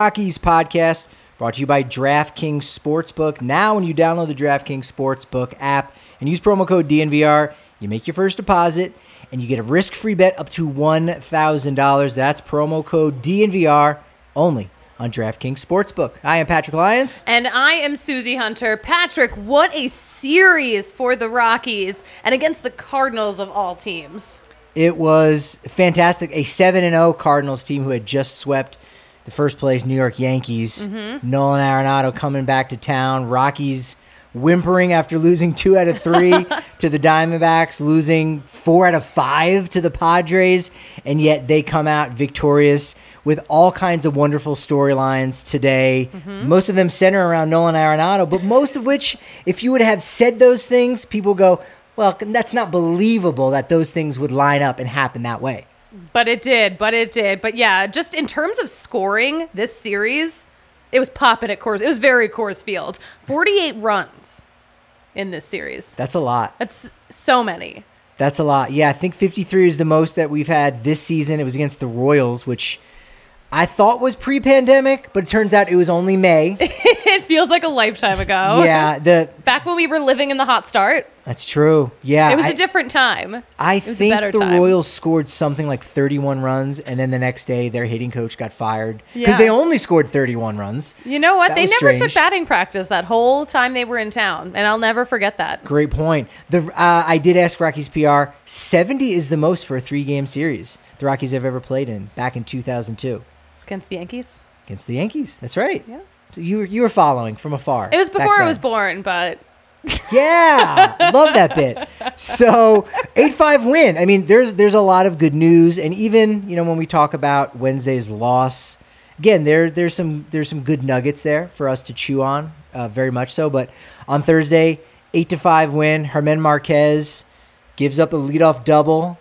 Rockies podcast brought to you by DraftKings Sportsbook. Now, when you download the DraftKings Sportsbook app and use promo code DNVR, you make your first deposit and you get a risk-free bet up to $1,000. That's promo code DNVR only on DraftKings Sportsbook. I am Patrick Lyons. And I am Susie Hunter. Patrick, what a series for the Rockies and against the Cardinals of all teams. It was fantastic. A 7-0 Cardinals team who had just swept the first place New York Yankees. Nolan Arenado coming back to town. Rockies whimpering after losing 2 out of 3 to the Diamondbacks, losing 4 out of 5 to the Padres, and yet they come out victorious with all kinds of wonderful storylines today. Most of them center around Nolan Arenado, but most of which, if you would have said those things, people go, well, that's not believable that those things would line up and happen that way. But it did. But yeah, just in terms of scoring this series, it was popping at Coors. It was very Coors Field. 48 runs in this series. That's a lot. That's so many. That's a lot. Yeah, I think 53 is the most that we've had this season. It was against the Royals, which I thought was pre-pandemic, but it turns out it was only May. It feels like a lifetime ago. Yeah. Back when we were living in the hot start. That's true. Yeah. It was a different time. I think the Royals scored something like 31 runs, and then the next day their hitting coach got fired because they only scored 31 runs. You know what? They never strange. took batting practice that whole time they were in town, and I'll never forget that. Great point. I did ask Rockies PR, 70 is the most for a 3-game series the Rockies have ever played in back in 2002. Against the Yankees? Against the Yankees. That's right. Yeah. So you were following from afar. It was before I was born, but... Yeah, love that bit. So 8-5 win. I mean, there's a lot of good news, and even when we talk about Wednesday's loss, again there's some good nuggets there for us to chew on, very much so. But on Thursday, 8-5 win. Germán Márquez gives up a leadoff double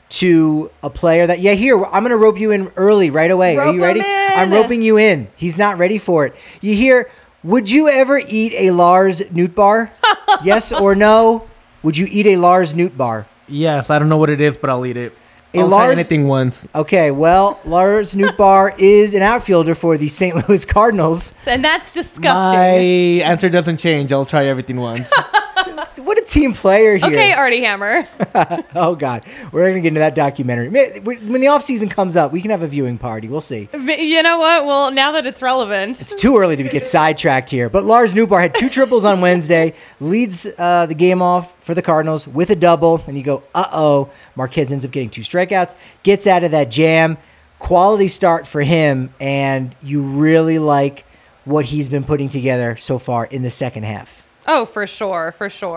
to a player that here I'm going to rope you in early right away. Are you ready? I'm roping you in. He's not ready for it. You hear. Would you ever eat a Lars Nootbaar? Yes or no? Would you eat a Lars Nootbaar? Yes, I don't know what it is, but I'll eat it. I'll try anything once. Okay, well, Lars Nootbaar is an outfielder for the St. Louis Cardinals. And that's disgusting. My answer doesn't change. I'll try everything once. What a team player here. Okay, Artie Hammer. Oh, God. We're going to get into that documentary. When the offseason comes up, we can have a viewing party. We'll see. You know what? Well, now that it's relevant. It's too early to get sidetracked here. But Lars Nootbaar had 2 triples on Wednesday, leads the game off for the Cardinals with a double. And you go, uh-oh. Márquez ends up getting 2 strikeouts, gets out of that jam. Quality start for him, and you really like what he's been putting together so far in the second half. Oh, for sure.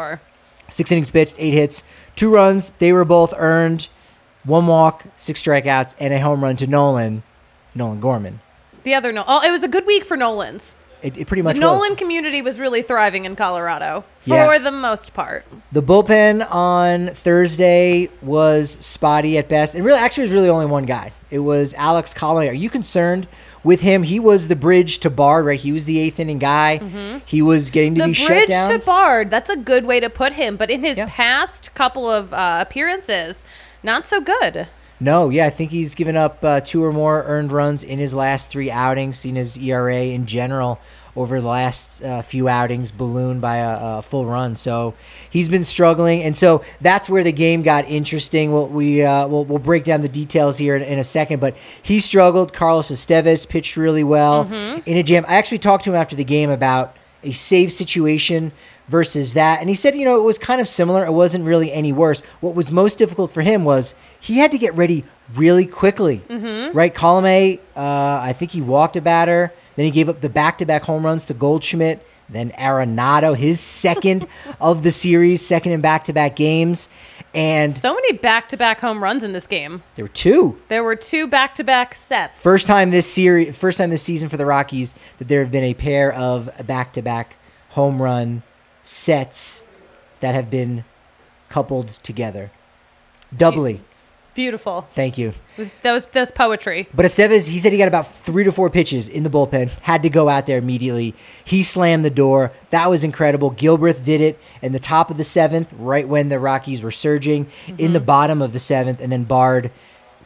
6 innings pitched, 8 hits, 2 runs. They were both earned. 1 walk, 6 strikeouts, and a home run to Nolan Gorman. The other it was a good week for Nolans. It pretty much was. The Nolan community was really thriving in Colorado for the most part. The bullpen on Thursday was spotty at best. And it was really only one guy. It was Alex Colomé. Are you concerned with him? He was the bridge to Bard, right? He was the 8th inning guy. He was getting to be shut down. The bridge to Bard, that's a good way to put him. But in his past couple of appearances, not so good. No, I think he's given up 2 or more earned runs in his last 3 outings, seen his ERA in general over the last few outings ballooned by a full run. So he's been struggling, and so that's where the game got interesting. We'll break down the details here in a second, but he struggled. Carlos Estevez pitched really well in a jam. I actually talked to him after the game about a save situation versus that, and he said, it was kind of similar. It wasn't really any worse. What was most difficult for him was he had to get ready really quickly, right? Colomé, I think he walked a batter. Then he gave up the back-to-back home runs to Goldschmidt. Then Arenado, his second of the series, second in back-to-back games. And so many back-to-back home runs in this game. There were 2. There were 2 back-to-back sets. First time this season for the Rockies that there have been a pair of back-to-back home run sets that have been coupled together. Doubly. Beautiful. Thank you. That was poetry. But Estevez, he said he got about 3 to 4 pitches in the bullpen, had to go out there immediately. He slammed the door. That was incredible. Gilbreth did it in the top of the 7th, right when the Rockies were surging, in the bottom of the 7th, and then Bard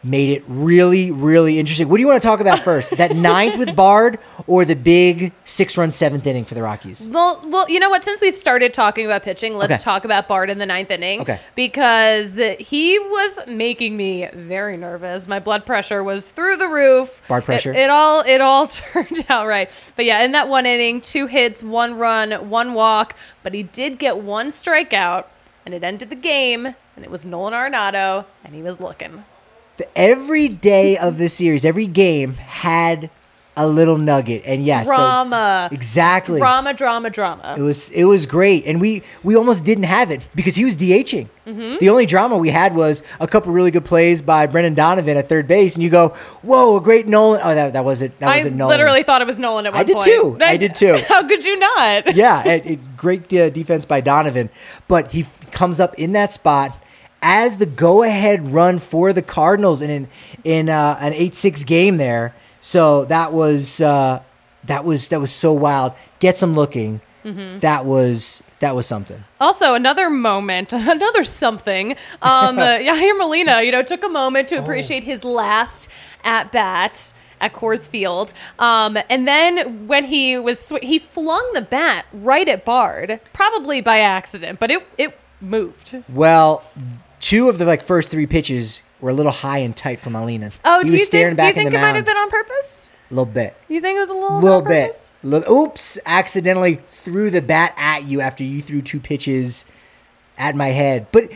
made it really, really interesting. What do you want to talk about first? That ninth with Bard or the big 6-run seventh inning for the Rockies? Well, you know what? Since we've started talking about pitching, let's Okay. talk about Bard in the ninth inning. Okay. Because he was making me very nervous. My blood pressure was through the roof. Bard pressure. It all turned out right. But yeah, in that one inning, 2 hits, 1 run, 1 walk. But he did get 1 strikeout, and it ended the game. And it was Nolan Arenado, and he was looking. Every day of the series, every game had a little nugget, and yes, Drama. exactly. Drama. It was great, and we almost didn't have it because he was DHing. The only drama we had was a couple really good plays by Brendan Donovan at third base, and you go, "Whoa, a great Nolan!" Oh, that wasn't I Nolan. literally thought it was Nolan at one point. I did too. How could you not? Yeah, great defense by Donovan, but he comes up in that spot as the go-ahead run for the Cardinals in an 8-6 game there. So that was so wild. Gets him looking. That was something. Also, another moment, another something. Yadier Molina, took a moment to appreciate his last at bat at Coors Field, and then when he flung the bat right at Bard, probably by accident, but it moved. Well, 2 of the first 3 pitches were a little high and tight for Molina. Oh, He do was you staring think back in it the might have mound. been on purpose? A little bit. You think it was a little Little on bit. purpose? Oops, accidentally threw the bat at you after you threw 2 pitches at my head. But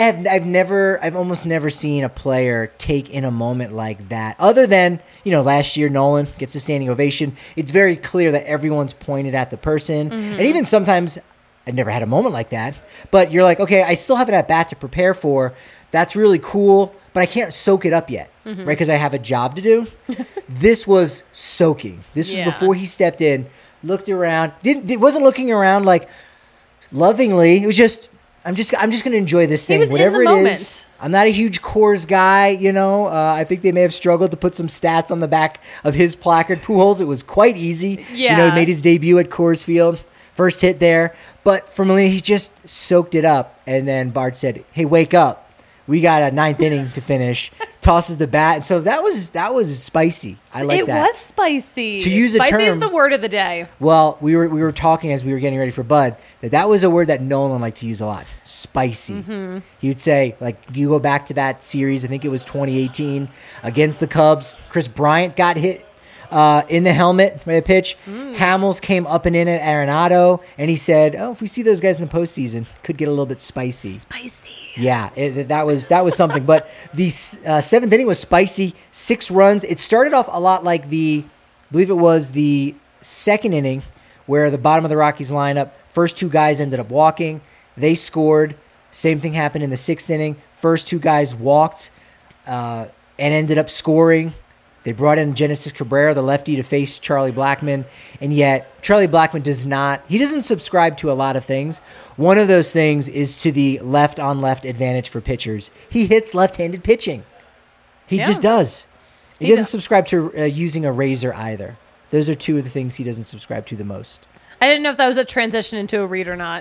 I've almost never seen a player take in a moment like that. Other than, last year Nolan gets a standing ovation. It's very clear that everyone's pointed at the person. And even sometimes I've never had a moment like that. But you're like, okay, I still have an at bat to prepare for. That's really cool, but I can't soak it up yet, right? Because I have a job to do. This was soaking. This was Yeah. before he stepped in, looked around, wasn't looking around like lovingly. It was just, I'm just going to enjoy this thing, was in whatever the it moment. is. I'm not a huge Coors guy, I think they may have struggled to put some stats on the back of his placard. Pujols, it was quite easy. Yeah. He made his debut at Coors Field, first hit there. But for Molina, he just soaked it up. And then Bart said, "Hey, wake up. We got a 9th inning to finish." Tosses the bat. And so that was spicy. I like that. It was spicy. To use a spicy is term- the word of the day. Well, we were talking as we were getting ready for Bud that was a word that Nolan liked to use a lot. Spicy. He would say, you go back to that series, I think it was 2018 against the Cubs. Chris Bryant got hit in the helmet by a pitch. Hamels came up and in at Arenado, and he said, "Oh, if we see those guys in the postseason, could get a little bit spicy." Spicy. Yeah, that was something. But the 7th inning was spicy. 6 runs. It started off a lot like I believe it was the 2nd inning, where the bottom of the Rockies lineup, first 2 guys ended up walking. They scored. Same thing happened in the 6th inning. First 2 guys walked and ended up scoring. They brought in Genesis Cabrera, the lefty, to face Charlie Blackmon, and yet Charlie Blackmon doesn't subscribe to a lot of things. One of those things is to the left-on-left advantage for pitchers. He hits left-handed pitching. He just does. He doesn't subscribe to using a razor either. Those are 2 of the things he doesn't subscribe to the most. I didn't know if that was a transition into a read or not.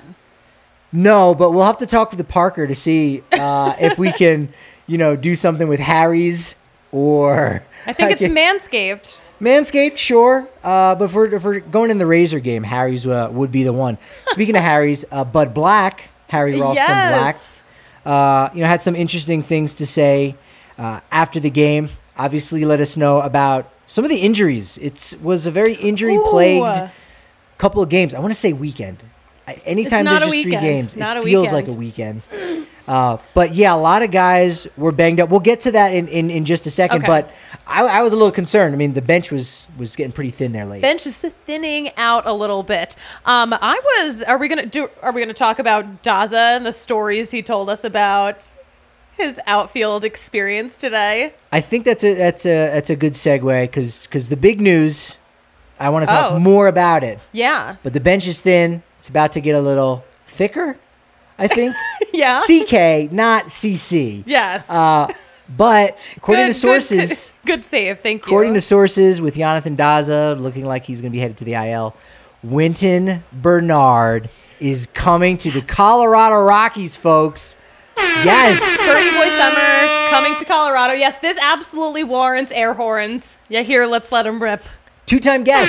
No, but we'll have to talk to the Parker to see if we can, do something with Harry's or... I think it's Manscaped. Manscaped, sure. But if we're going in the razor game, Harry's would be the one. Speaking of Harry's, Bud Black, Harry Ralston Yes. Black, had some interesting things to say after the game. Obviously, let us know about some of the injuries. It was a very injury-plagued couple of games. I want to say weekend. Anytime It's not there's a just 3 weekend. games, Not it a feels weekend. like a weekend. But yeah, a lot of guys were banged up. We'll get to that in just a second. Okay. But I was a little concerned. I mean, the bench was getting pretty thin there late. Bench is thinning out a little bit. Are we gonna talk about Daza and the stories he told us about his outfield experience today? I think that's a good segue because the big news. I want to talk Oh. more about it. Yeah. But the bench is thin. It's about to get a little thicker, I think. Yeah. CK, not CC. Yes. But according to sources, Good save. Thank you. according to sources with Jonathan Daza looking like he's going to be headed to the IL, Winton Bernard is coming to the Colorado Rockies, folks. Yes. Pretty Boy Summer coming to Colorado. Yes, this absolutely warrants air horns. Yeah, here, let's let him rip. Two-time guest.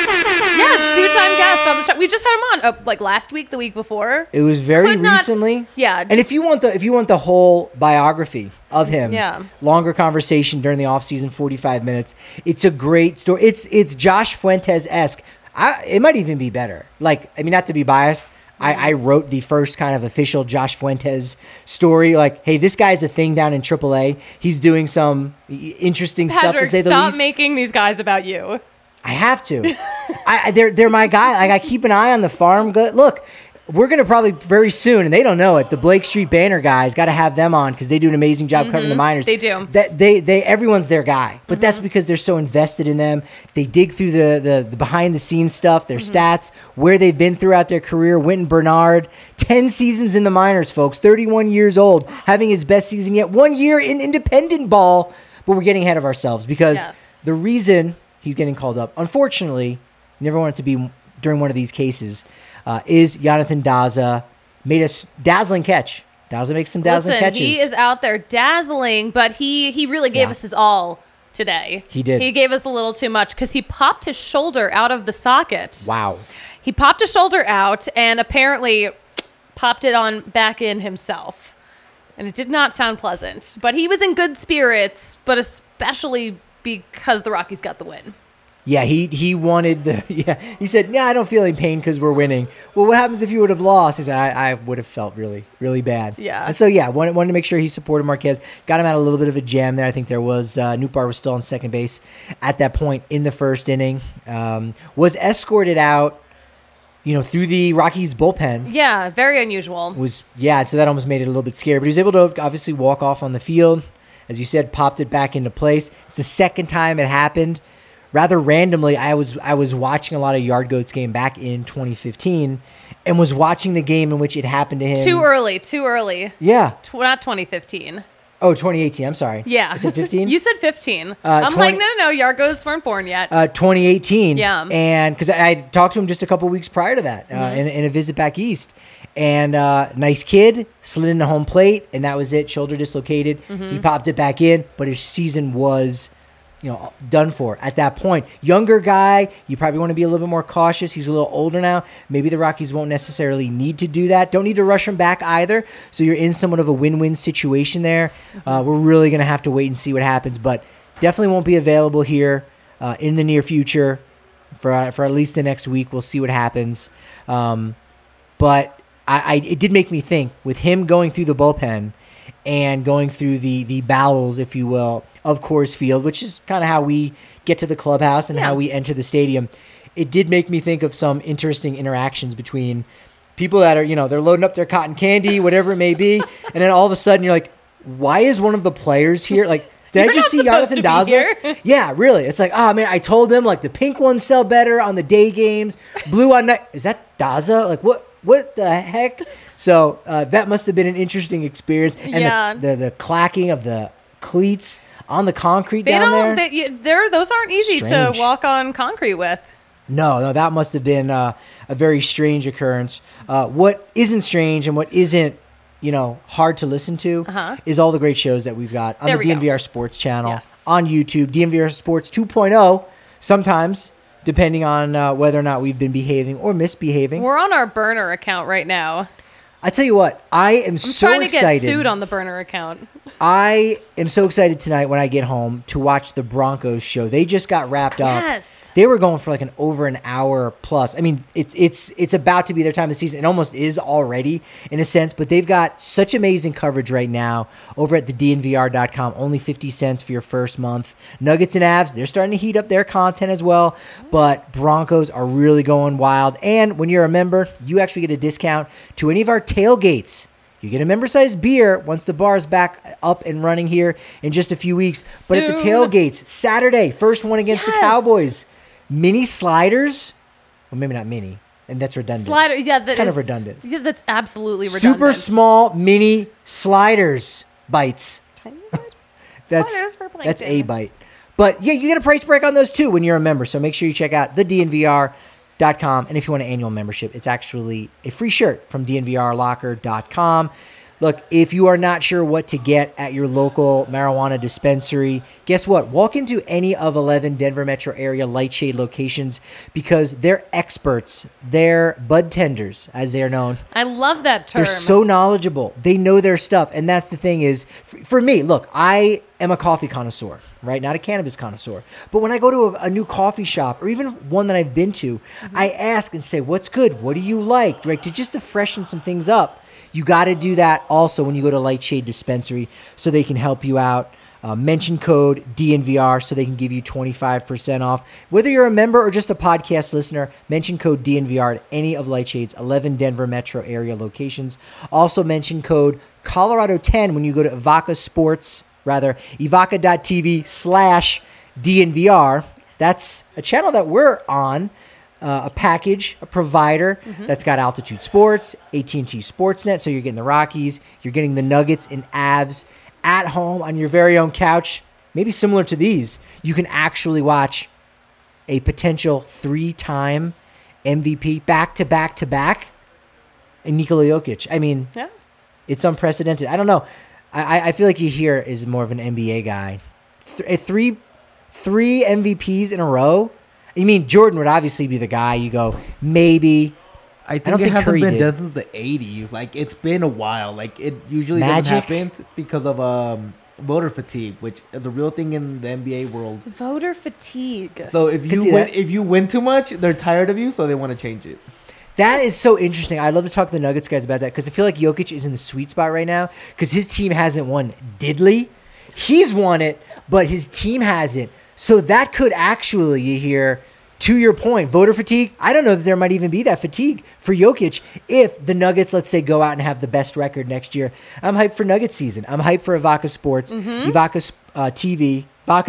Yes, two-time guest on the show. We just had him on like last week, the week before. It was very Could not- recently. Yeah, And if you want the whole biography of him, Yeah. longer conversation during the offseason, 45 minutes. It's a great story. It's Josh Fuentes-esque. It might even be better. Like, I mean, not to be biased, I wrote the first kind of official Josh Fuentes story. Like, hey, this guy's a thing down in AAA. He's doing some interesting stuff, Patrick, to say the stop least. making these guys about you. I have to. They're my guy. Like, I keep an eye on the farm. Look, we're going to probably very soon, and they don't know it, the Blake Street Banner guys, got to have them on because they do an amazing job covering the minors. They do. They everyone's their guy, but that's because they're so invested in them. They dig through the behind the scenes stuff, their stats, where they've been throughout their career. Wynton Bernard, 10 seasons in the minors, folks, 31 years old, having his best season yet, 1 year in independent ball, but we're getting ahead of ourselves because Yes. the reason he's getting called up, unfortunately, you never want it to be during one of these cases, is Jonathan Daza made a dazzling catch. Daza makes some dazzling Listen, catches. he is out there dazzling, but he really gave Yeah. us his all today. He did. He gave us a little too much because he popped his shoulder out of the socket. Wow. He popped his shoulder out and apparently popped it on back in himself. And it did not sound pleasant. But he was in good spirits, but especially because the Rockies got the win. Yeah, he wanted he said, "Yeah, I don't feel any pain because we're winning." Well, what happens if you would have lost? He said, I would have felt really, really bad. Yeah. And so, yeah, wanted to make sure he supported Marquez. Got him out a little bit of a jam there. I think there was, Nootbaar was still on second base at that point in the first inning. Was escorted out, through the Rockies bullpen. Yeah, very unusual. So that almost made it a little bit scary. But he was able to obviously walk off on the field. As you said, popped it back into place. It's the second time it happened. Rather randomly, I was watching a lot of Yard Goats game back in 2015 and was watching the game in which it happened to him. Too early. Yeah. Not 2015. Oh, 2018. I'm sorry. Yeah. I said 15? You said 15. I'm 20 like, no, Yargos weren't born yet. 2018. Yeah. And because I talked to him just a couple weeks prior to that in a visit back east. And nice kid, slid into home plate, and that was it. Shoulder dislocated. He popped it back in, but his season was done for at that point. Younger guy, you probably want to be a little bit more cautious. He's a little older now. Maybe the Rockies won't necessarily need to do that. Don't need to rush him back either. So you're in somewhat of a win-win situation there. We're really going to have to wait and see what happens, but definitely won't be available here in the near future for at least the next week. We'll see what happens. But it did make me think with him going through the bullpen and going through the bowels, if you will, of Coors Field, which is kind of how we get to the clubhouse and how we enter the stadium. It did make me think of some interesting interactions between people that are, they're loading up their cotton candy, whatever it may be, and then all of a sudden you're like, why is one of the players here? Like, did I just see Jonathan Daza? Yeah, really. It's like, oh man, I told them like the pink ones sell better on the day games, blue on night. Is that Daza? Like what the heck? So that must have been an interesting experience. And the clacking of the cleats on the concrete down there. Those aren't easy Strange. to walk on concrete with. No, that must have been a very strange occurrence. What isn't strange and what isn't, hard to listen to is all the great shows that we've got on the DNVR Sports channel, on YouTube, DNVR Sports 2.0, sometimes, depending on whether or not we've been behaving or misbehaving. We're on our burner account right now. I tell you what, I'm so trying to excited. get sued on the burner account. I am so excited tonight when I get home to watch the Broncos show. They just got wrapped up. Yes. They were going for like over an hour plus. I mean, it's about to be their time of the season. It almost is already in a sense, but they've got such amazing coverage right now over at the DNVR.com. Only 50 cents for your first month. Nuggets and Avs, they're starting to heat up their content as well, but Broncos are really going wild. And when you're a member, you actually get a discount to any of our tailgates. You get a member-sized beer once the bar is back up and running here in just a few weeks. But at the tailgates, Saturday, first one against the Cowboys. Mini sliders. Well, maybe not mini. And that's redundant. Slider, yeah, that's kind of redundant. Yeah, that's absolutely redundant. Super small mini sliders bites. Tiny That's for plankton. a bite. But yeah, you get a price break on those too when you're a member. So make sure you check out the DNVR.com. And if you want an annual membership, it's actually a free shirt from DNVRlocker.com. Look, if you are not sure what to get at your local marijuana dispensary, guess what? Walk into any of 11 Denver metro area Lightshade locations because they're experts. They're bud tenders, as they are known. I love that term. They're so knowledgeable. They know their stuff. And that's the thing is, for me, look, I am a coffee connoisseur, right? Not a cannabis connoisseur. But when I go to a new coffee shop or even one that I've been to, I ask and say, what's good? What do you like? Right? To freshen some things up. You got to do that also when you go to Lightshade Dispensary so they can help you out. Mention code DNVR so they can give you 25% off. Whether you're a member or just a podcast listener, mention code DNVR at any of Lightshade's 11 Denver metro area locations. Also mention code Colorado10 when you go to evoca.tv/DNVR. That's a channel that we're on. A package, a provider that's got Altitude Sports, AT&T Sportsnet, so you're getting the Rockies, you're getting the Nuggets and Avs at home on your very own couch, maybe similar to these. You can actually watch a potential 3-time MVP back-to-back and Nikola Jokic. I mean, It's unprecedented. I don't know. I feel like Yahir is more of an NBA guy. Three MVPs in a row. You mean Jordan would obviously be the guy. You go, maybe. I think it hasn't been done since the 80s. Like, it's been a while. Like, it usually doesn't happen because of voter fatigue, which is a real thing in the NBA world. Voter fatigue. So if you win too much, they're tired of you, so they want to change it. That is so interesting. I'd love to talk to the Nuggets guys about that because I feel like Jokic is in the sweet spot right now because his team hasn't won diddly. He's won it, but his team hasn't. So that could actually, you hear, to your point, voter fatigue. I don't know that there might even be that fatigue for Jokic if the Nuggets, let's say, go out and have the best record next year. I'm hyped for Nuggets season. I'm hyped for Evoca Sports, Evoca TV,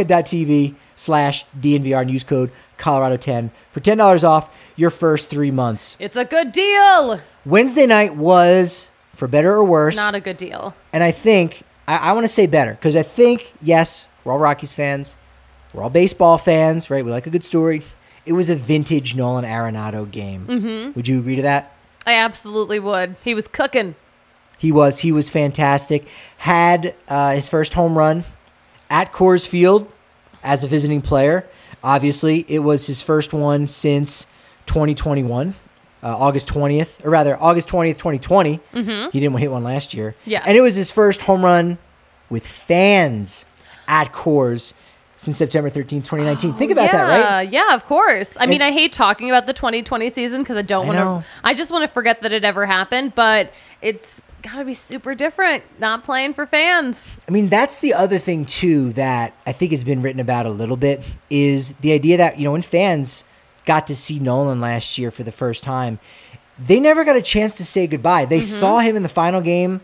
evoca.tv/DNVR and use code Colorado10 for $10 off your first 3 months. It's a good deal. Wednesday night was, for better or worse, not a good deal. And I think, I want to say better because I think, yes, we're all Rockies fans. We're all baseball fans, right? We like a good story. It was a vintage Nolan Arenado game. Would you agree to that? I absolutely would. He was cooking. He was fantastic. Had his first home run at Coors Field as a visiting player. Obviously, it was his first one since 2021, August 20th, 2020. He didn't hit one last year. Yeah. And it was his first home run with fans at Coors since September 13th, 2019. Think about that, right? Yeah, of course. I mean, I hate talking about the 2020 season because I don't want to. I just want to forget that it ever happened, but it's got to be super different not playing for fans. I mean, that's the other thing, too, that I think has been written about a little bit is the idea that, when fans got to see Nolan last year for the first time, they never got a chance to say goodbye. They saw him in the final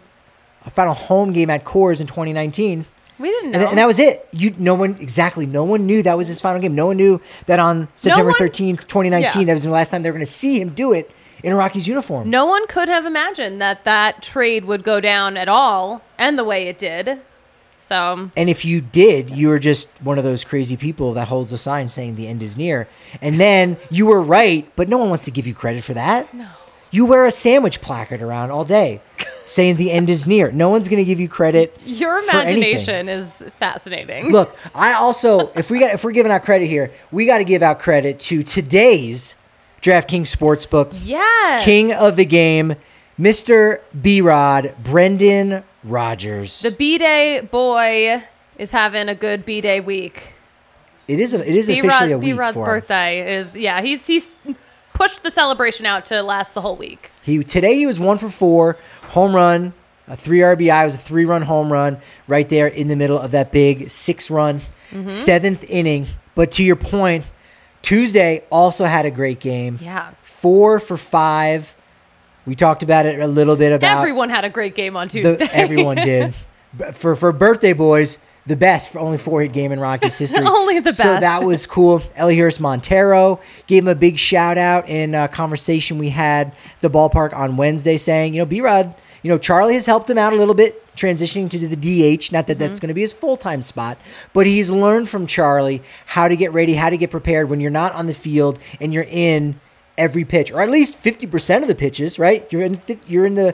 home game at Coors in 2019. We didn't know. And that was it. No one knew that was his final game. No one knew that on September 13th, 2019, that was the last time they were going to see him do it in a Rockies uniform. No one could have imagined that trade would go down at all and the way it did. So. And if you did, you were just one of those crazy people that holds a sign saying the end is near. And then you were right, but no one wants to give you credit for that. No. You wear a sandwich placard around all day saying the end is near. No one's going to give you credit. Your imagination is fascinating. Look, I also, if we're giving out credit here, we got to give out credit to today's DraftKings Sportsbook. Yes. King of the game, Mr. B-Rod, Brendan Rodgers. The B-Day boy is having a good B-Day week. It is officially a week B-Rod's for him. birthday is, he's pushed the celebration out to last the whole week. Today he was 1 for 4, home run, a 3 RBI. It was a 3-run home run right there in the middle of that big 6-run 7th inning. But to your point, Tuesday also had a great game. Yeah. 4 for 5. We talked about it a little bit about. Everyone had a great game on Tuesday. Everyone did. For birthday boys, the best for only 4-hit game in Rockies history. Only the best. So that was cool. Elihuris Montero gave him a big shout out in a conversation we had at the ballpark on Wednesday saying, B-Rod, Charlie has helped him out a little bit transitioning to the DH. Not that that's going to be his full-time spot, but he's learned from Charlie how to get ready, how to get prepared when you're not on the field and you're in every pitch, or at least 50% of the pitches, right? You're in the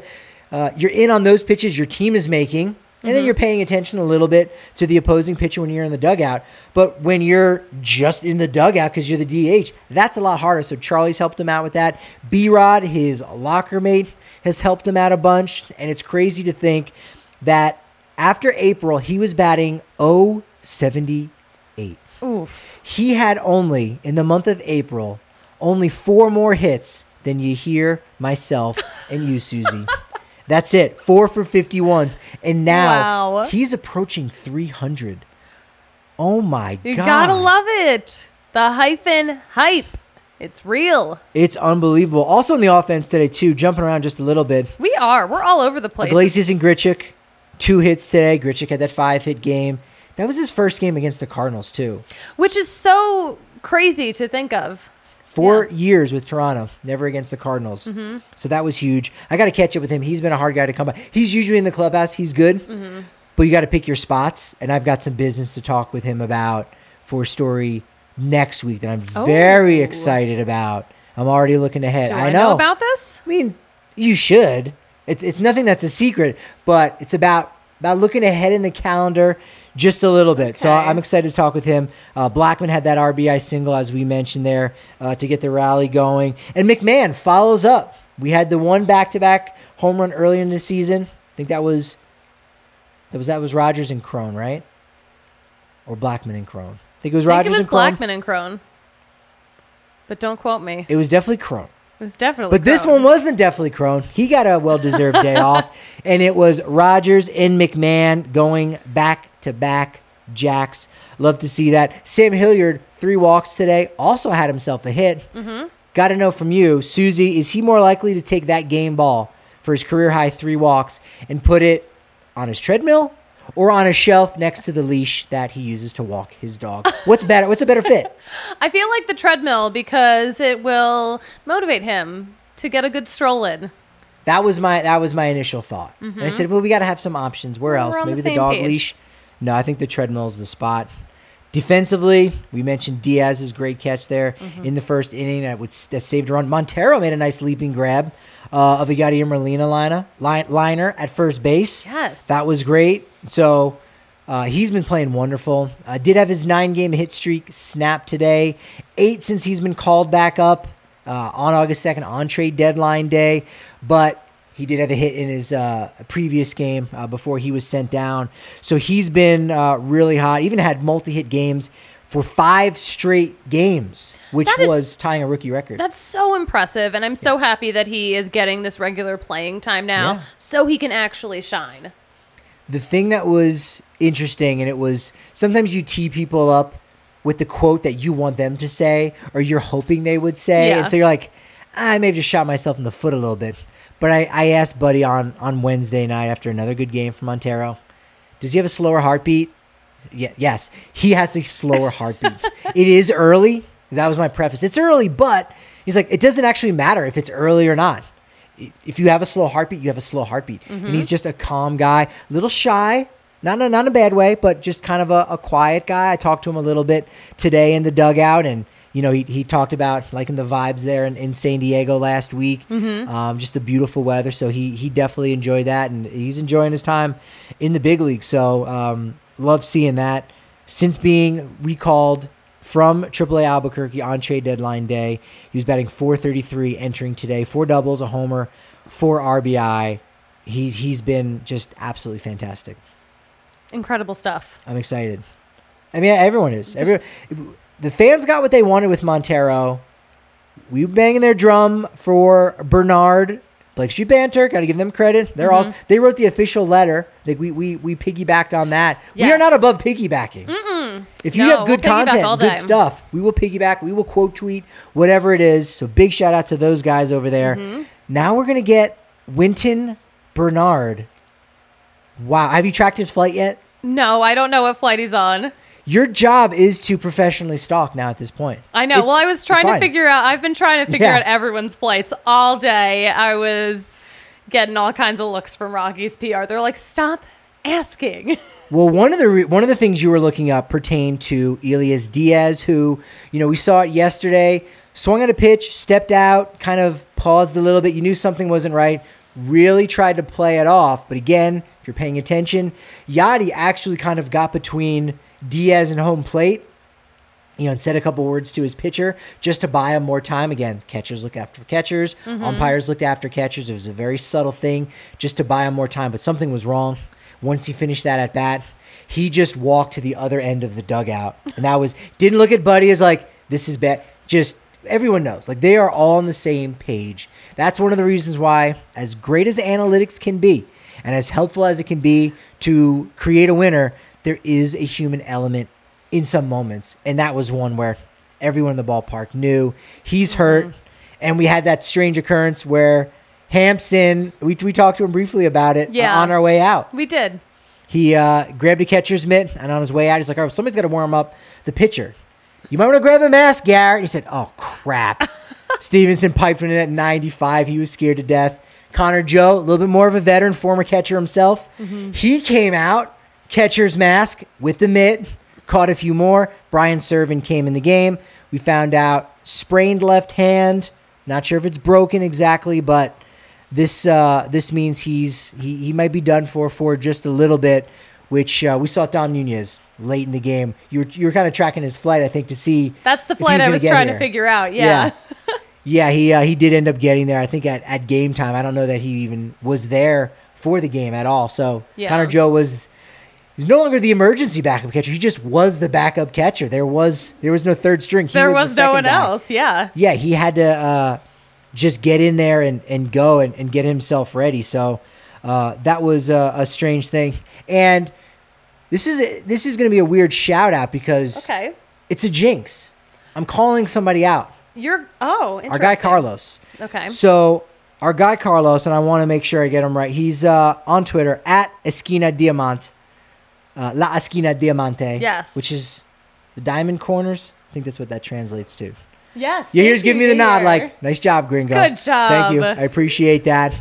you're in on those pitches your team is making. And then you're paying attention a little bit to the opposing pitcher when you're in the dugout. But when you're just in the dugout because you're the DH, that's a lot harder. So Charlie's helped him out with that. B-Rod, his locker mate, has helped him out a bunch. And it's crazy to think that after April, he was batting .078. Oof. He had only, in the month of April, only 4 more hits than myself, and you, Susie. That's it. 4 for 51. And now he's approaching 300. Oh, my God. You gotta love it. The hype. It's real. It's unbelievable. Also in the offense today, too, jumping around just a little bit. We're all over the place. Iglesias and Grichuk, 2 hits today. Grichuk had that 5-hit game. That was his first game against the Cardinals, too. Which is so crazy to think of. 4 years with Toronto, never against the Cardinals. So that was huge. I got to catch up with him. He's been a hard guy to come by. He's usually in the clubhouse. He's good. But you got to pick your spots. And I've got some business to talk with him about for a story next week that I'm very excited about. I'm already looking ahead. Do I know about this? I mean, you should. It's nothing that's a secret, but it's about looking ahead in the calendar just a little bit. Okay. So I'm excited to talk with him. Blackmon had that RBI single, as we mentioned there, to get the rally going. And McMahon follows up. We had the one back-to-back home run earlier in the season. I think that was Rogers and Cron, right? Or Blackmon and Cron. I think it was Rogers and Cron. I think it was Blackmon and Cron. But don't quote me. It was definitely Cron. It was definitely But this one wasn't definitely Cron. He got a well-deserved day off. And it was Rogers and McMahon going back-to-back jacks. Love to see that. Sam Hilliard, 3 walks today. Also had himself a hit. Got to know from you, Susie, is he more likely to take that game ball for his career-high 3 walks and put it on his treadmill or on a shelf next to the leash that he uses to walk his dog? What's better? What's a better fit? I feel like the treadmill because it will motivate him to get a good stroll in. That was my initial thought. And I said, well, we got to have some options. Where else? Maybe the dog leash. No, I think the treadmill is the spot. Defensively, we mentioned Diaz's great catch there in the first inning that saved a run. Montero made a nice leaping grab of a Yadier Molina liner at first base. Yes. That was great. So he's been playing wonderful. Did have his 9-game hit streak snap today. 8 since he's been called back up on August 2nd on trade deadline day. But he did have a hit in his previous game before he was sent down. So he's been really hot. Even had multi-hit games for 5 straight games, which was tying a rookie record. That's so impressive, and I'm so happy that he is getting this regular playing time now so he can actually shine. The thing that was interesting, and it was sometimes you tee people up with the quote that you want them to say or you're hoping they would say. And so you're like, I may have just shot myself in the foot a little bit. But I asked Buddy on Wednesday night after another good game from Montero, does he have a slower heartbeat? Yes, he has a slower heartbeat. It is early, because that was my preface. It's early, but he's like, it doesn't actually matter if it's early or not. If you have a slow heartbeat, you have a slow heartbeat. And he's just a calm guy, a little shy, not in a bad way, but just kind of a quiet guy. I talked to him a little bit today in the dugout, and you know, he talked about liking the vibes there in San Diego last week. Just the beautiful weather, so he definitely enjoyed that, and he's enjoying his time in the big league. So love seeing that. Since being recalled from AAA Albuquerque on trade deadline day, he was batting .433 entering today, 4 doubles, a homer, 4 RBI. He's been just absolutely fantastic. Incredible stuff. I'm excited. I mean, everyone is. The fans got what they wanted with Montero. We were banging their drum for Bernard. Blake Street Banter, got to give them credit. They wrote the official letter. Like we piggybacked on that. Yes. We are not above piggybacking. If you have good content, good stuff, we will piggyback. We will quote tweet, whatever it is. So big shout out to those guys over there. Now we're going to get Winton Bernard. Wow. Have you tracked his flight yet? No, I don't know what flight he's on. Your job is to professionally stalk now at this point. I know. Well, I was trying to figure out, I've been trying to figure out everyone's flights all day. I was getting all kinds of looks from Rocky's PR. They're like, stop asking. Well, one of the things you were looking up pertained to Elias Diaz, who, you know, we saw it yesterday, swung at a pitch, stepped out, kind of paused a little bit. You knew something wasn't right. really tried to play it off. But again, if you're paying attention, Yadi actually kind of got between Diaz and home plate, and said a couple words to his pitcher just to buy him more time. Again, catchers look after catchers. Umpires looked after catchers. It was a very subtle thing just to buy him more time. But something was wrong. Once he finished that at bat, he just walked to the other end of the dugout. And didn't look at Buddy as like, this is bad. Just everyone knows. Like, they are all on the same page. That's one of the reasons why, as great as analytics can be and as helpful as it can be to create a winner, there is a human element in some moments, and that was one where everyone in the ballpark knew he's hurt. And we had that strange occurrence where Hampson, we talked to him briefly about it on our way out. We did. He grabbed a catcher's mitt, and on his way out, he's like, "Oh, somebody's got to warm up the pitcher. You might want to grab a mask, Garrett." And he said, "Oh, crap." Stevenson piped in at 95. He was scared to death. Connor Joe, a little bit more of a veteran, former catcher himself. He came out, catcher's mask with the mitt, caught a few more. Brian Servin came in the game. We found out sprained left hand. Not sure if it's broken exactly, but this means he might be done for just a little bit, which we saw Dom Nunez late in the game. You were kind of tracking his flight, I think, to see. That's the flight I was trying to figure out. Yeah. Yeah, he did end up getting there, I think, at game time. I don't know that he even was there for the game at all. So Connor Joe was no longer the emergency backup catcher. He just was the backup catcher. There was no third string. There was no one else. Yeah. Yeah, he had to just get in there and go and get himself ready. So that was a strange thing. And this is going to be a weird shout out because it's a jinx. I'm calling somebody out. Our guy Carlos. Okay. So our guy Carlos, and I want to make sure I get him right. He's on Twitter at Esquina Diamante. La Esquina Diamante. Yes. Which is the diamond corners. I think that's what that translates to. Yes. Yeah, here's giving me the nod like, nice job, gringo. Good job. Thank you. I appreciate that.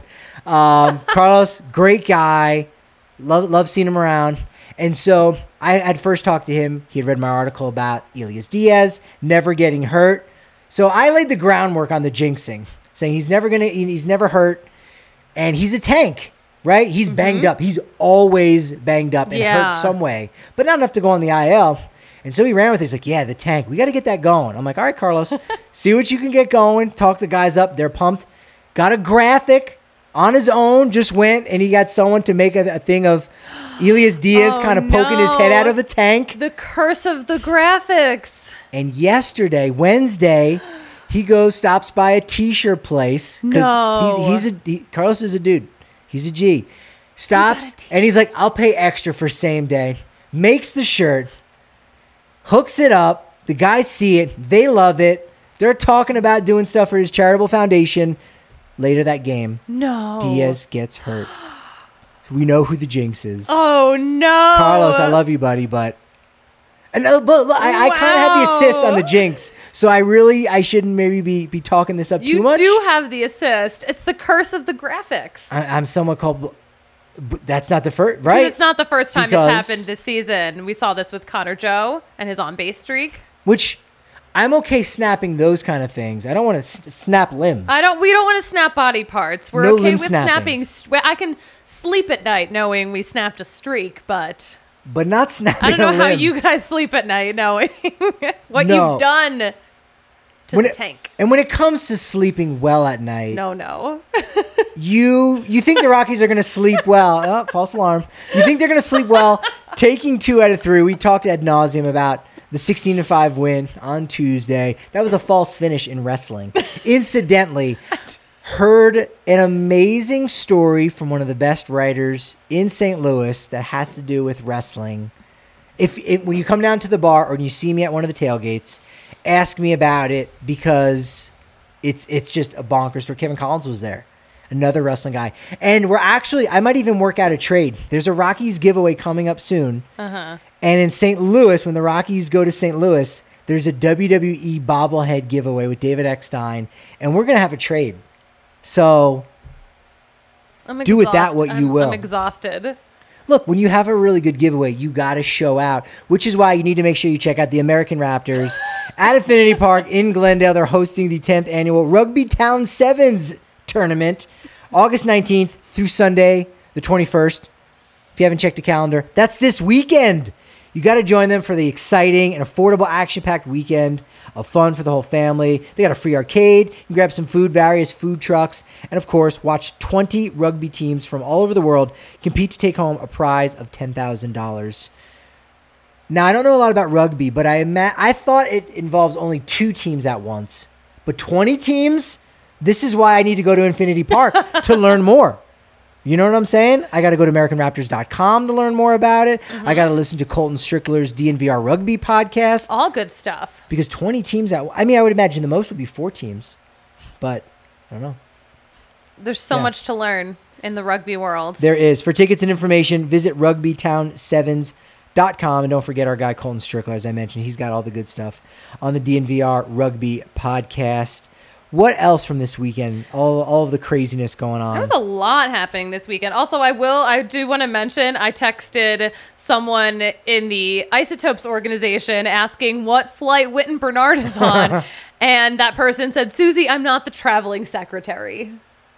Carlos, great guy. Love seeing him around. And so I had first talked to him. He had read my article about Elias Diaz never getting hurt. So I laid the groundwork on the jinxing, saying he's never hurt, and he's a tank. Right? He's banged up. He's always banged up and hurt some way, but not enough to go on the IL. And so he ran with it. He's like, the tank. We got to get that going. I'm like, all right, Carlos, see what you can get going. Talk the guys up. They're pumped. Got a graphic on his own. Just went, and he got someone to make a thing of Elias Diaz kind of poking his head out of the tank. The curse of the graphics. And Wednesday, he stops by a T-shirt place. Because Carlos is a dude. He's a G. Stops, and he's like, I'll pay extra for same day. Makes the shirt. Hooks it up. The guys see it. They love it. They're talking about doing stuff for his charitable foundation. Later that game, Diaz gets hurt. We know who the jinx is. Oh, no. Carlos, I love you, buddy, but I kind of had the assist on the jinx, so I shouldn't maybe be talking this up too much. You do have the assist. It's the curse of the graphics. I'm somewhat culpable. But that's not the first, right? It's not the first time it's happened this season. We saw this with Connor Joe and his on-base streak. Which I'm okay snapping those kind of things. I don't want to snap limbs. We don't want to snap body parts. We're okay with snapping. I can sleep at night knowing we snapped a streak, but not snapping. I don't know how you guys sleep at night knowing what you've done to the tank. And when it comes to sleeping well at night, no. You think the Rockies are going to sleep well? Oh, false alarm. You think they're going to sleep well? Taking 2 out of 3. We talked ad nauseum about the 16-5 win on Tuesday. That was a false finish in wrestling. Incidentally, heard an amazing story from one of the best writers in St. Louis that has to do with wrestling. When you come down to the bar or you see me at one of the tailgates, ask me about it because it's just a bonkers story. Kevin Collins was there. Another wrestling guy. And I might even work out a trade. There's a Rockies giveaway coming up soon. And in St. Louis, when the Rockies go to St. Louis, there's a WWE bobblehead giveaway with David Eckstein. And we're going to have a trade. So do with that what you will. I'm exhausted. Look, when you have a really good giveaway, you got to show out, which is why you need to make sure you check out the American Raptors at Affinity Park in Glendale. They're hosting the 10th annual Rugby Town Sevens tournament. August 19th through Sunday, the 21st. If you haven't checked the calendar, that's this weekend. You got to join them for the exciting and affordable action-packed weekend of fun for the whole family. They got a free arcade. You can grab some food, various food trucks, and of course, watch 20 rugby teams from all over the world compete to take home a prize of $10,000. Now, I don't know a lot about rugby, but I thought it involves only 2 teams at once. But 20 teams? This is why I need to go to Infinity Park to learn more. You know what I'm saying? I got to go to AmericanRaptors.com to learn more about it. Mm-hmm. I got to listen to Colton Strickler's DNVR Rugby podcast. All good stuff. Because 20 teams, I would imagine the most would be 4 teams. But I don't know. There's so much to learn in the rugby world. There is. For tickets and information, visit rugbytown7s.com. And don't forget our guy Colton Strickler, as I mentioned. He's got all the good stuff on the DNVR Rugby podcast. What else from this weekend? All of the craziness going on. There was a lot happening this weekend. Also, I do want to mention, I texted someone in the Isotopes organization asking what flight Witten Bernard is on. And that person said, Susie, I'm not the traveling secretary.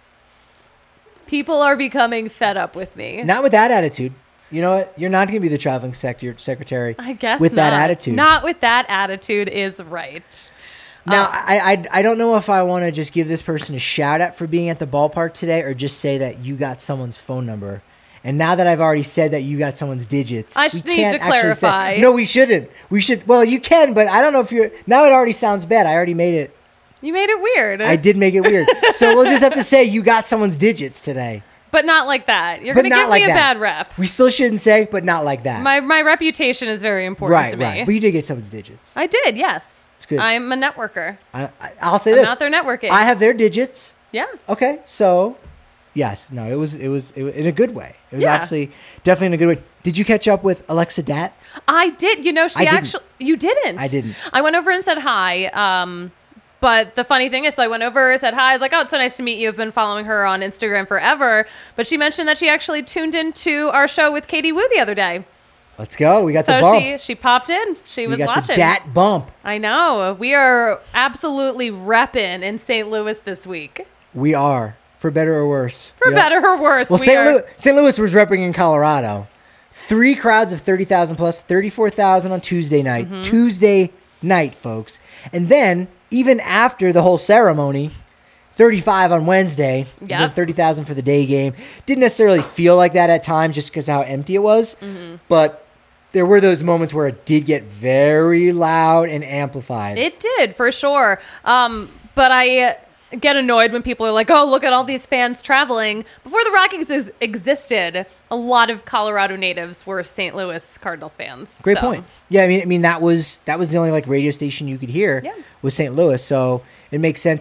People are becoming fed up with me. Not with that attitude. You know what? You're not going to be the traveling secretary. I guess with not. That attitude. Not with that attitude is right. Now, I don't know if I want to just give this person a shout out for being at the ballpark today or just say that you got someone's phone number. And now that I've already said that you got someone's digits, I need to clarify. No, we shouldn't. We should. Well, you can, but I don't know if you're. Now it already sounds bad. I already made it. You made it weird. I did make it weird. So we'll just have to say you got someone's digits today. But not like that. You're going to give me a bad rep. We still shouldn't say, but not like that. My reputation is very important to me. Right. But you did get someone's digits. I did, yes. It's good. I'm a networker. I'll say this. I'm not their networking. I have their digits. Yeah. Okay. So, yes. No, it was in a good way. It was actually definitely in a good way. Did you catch up with Alexa Dat? I did. You know, you didn't. I didn't. I went over and said hi. But the funny thing is, so I went over, said hi. I was like, oh, it's so nice to meet you. I've been following her on Instagram forever. But she mentioned that she actually tuned into our show with Katie Wu the other day. Let's go. We got the bump. She popped in. She was watching. The Dat bump. I know. We are absolutely repping in St. Louis this week. We are. For better or worse. For better or worse. Well, St. Louis was repping in Colorado. 3 crowds of 30,000 plus, 34,000 on Tuesday night. Mm-hmm. Tuesday night, folks. And then, even after the whole ceremony, 35 on Wednesday, 30,000 for the day game. Didn't necessarily feel like that at times just because of how empty it was. Mm-hmm. But there were those moments where it did get very loud and amplified. It did, for sure. But I get annoyed when people are like, oh, look at all these fans traveling. Before the Rockies existed, a lot of Colorado natives were St. Louis Cardinals fans. Great point. Yeah, I mean that was the only radio station you could hear was St. Louis, so it makes sense.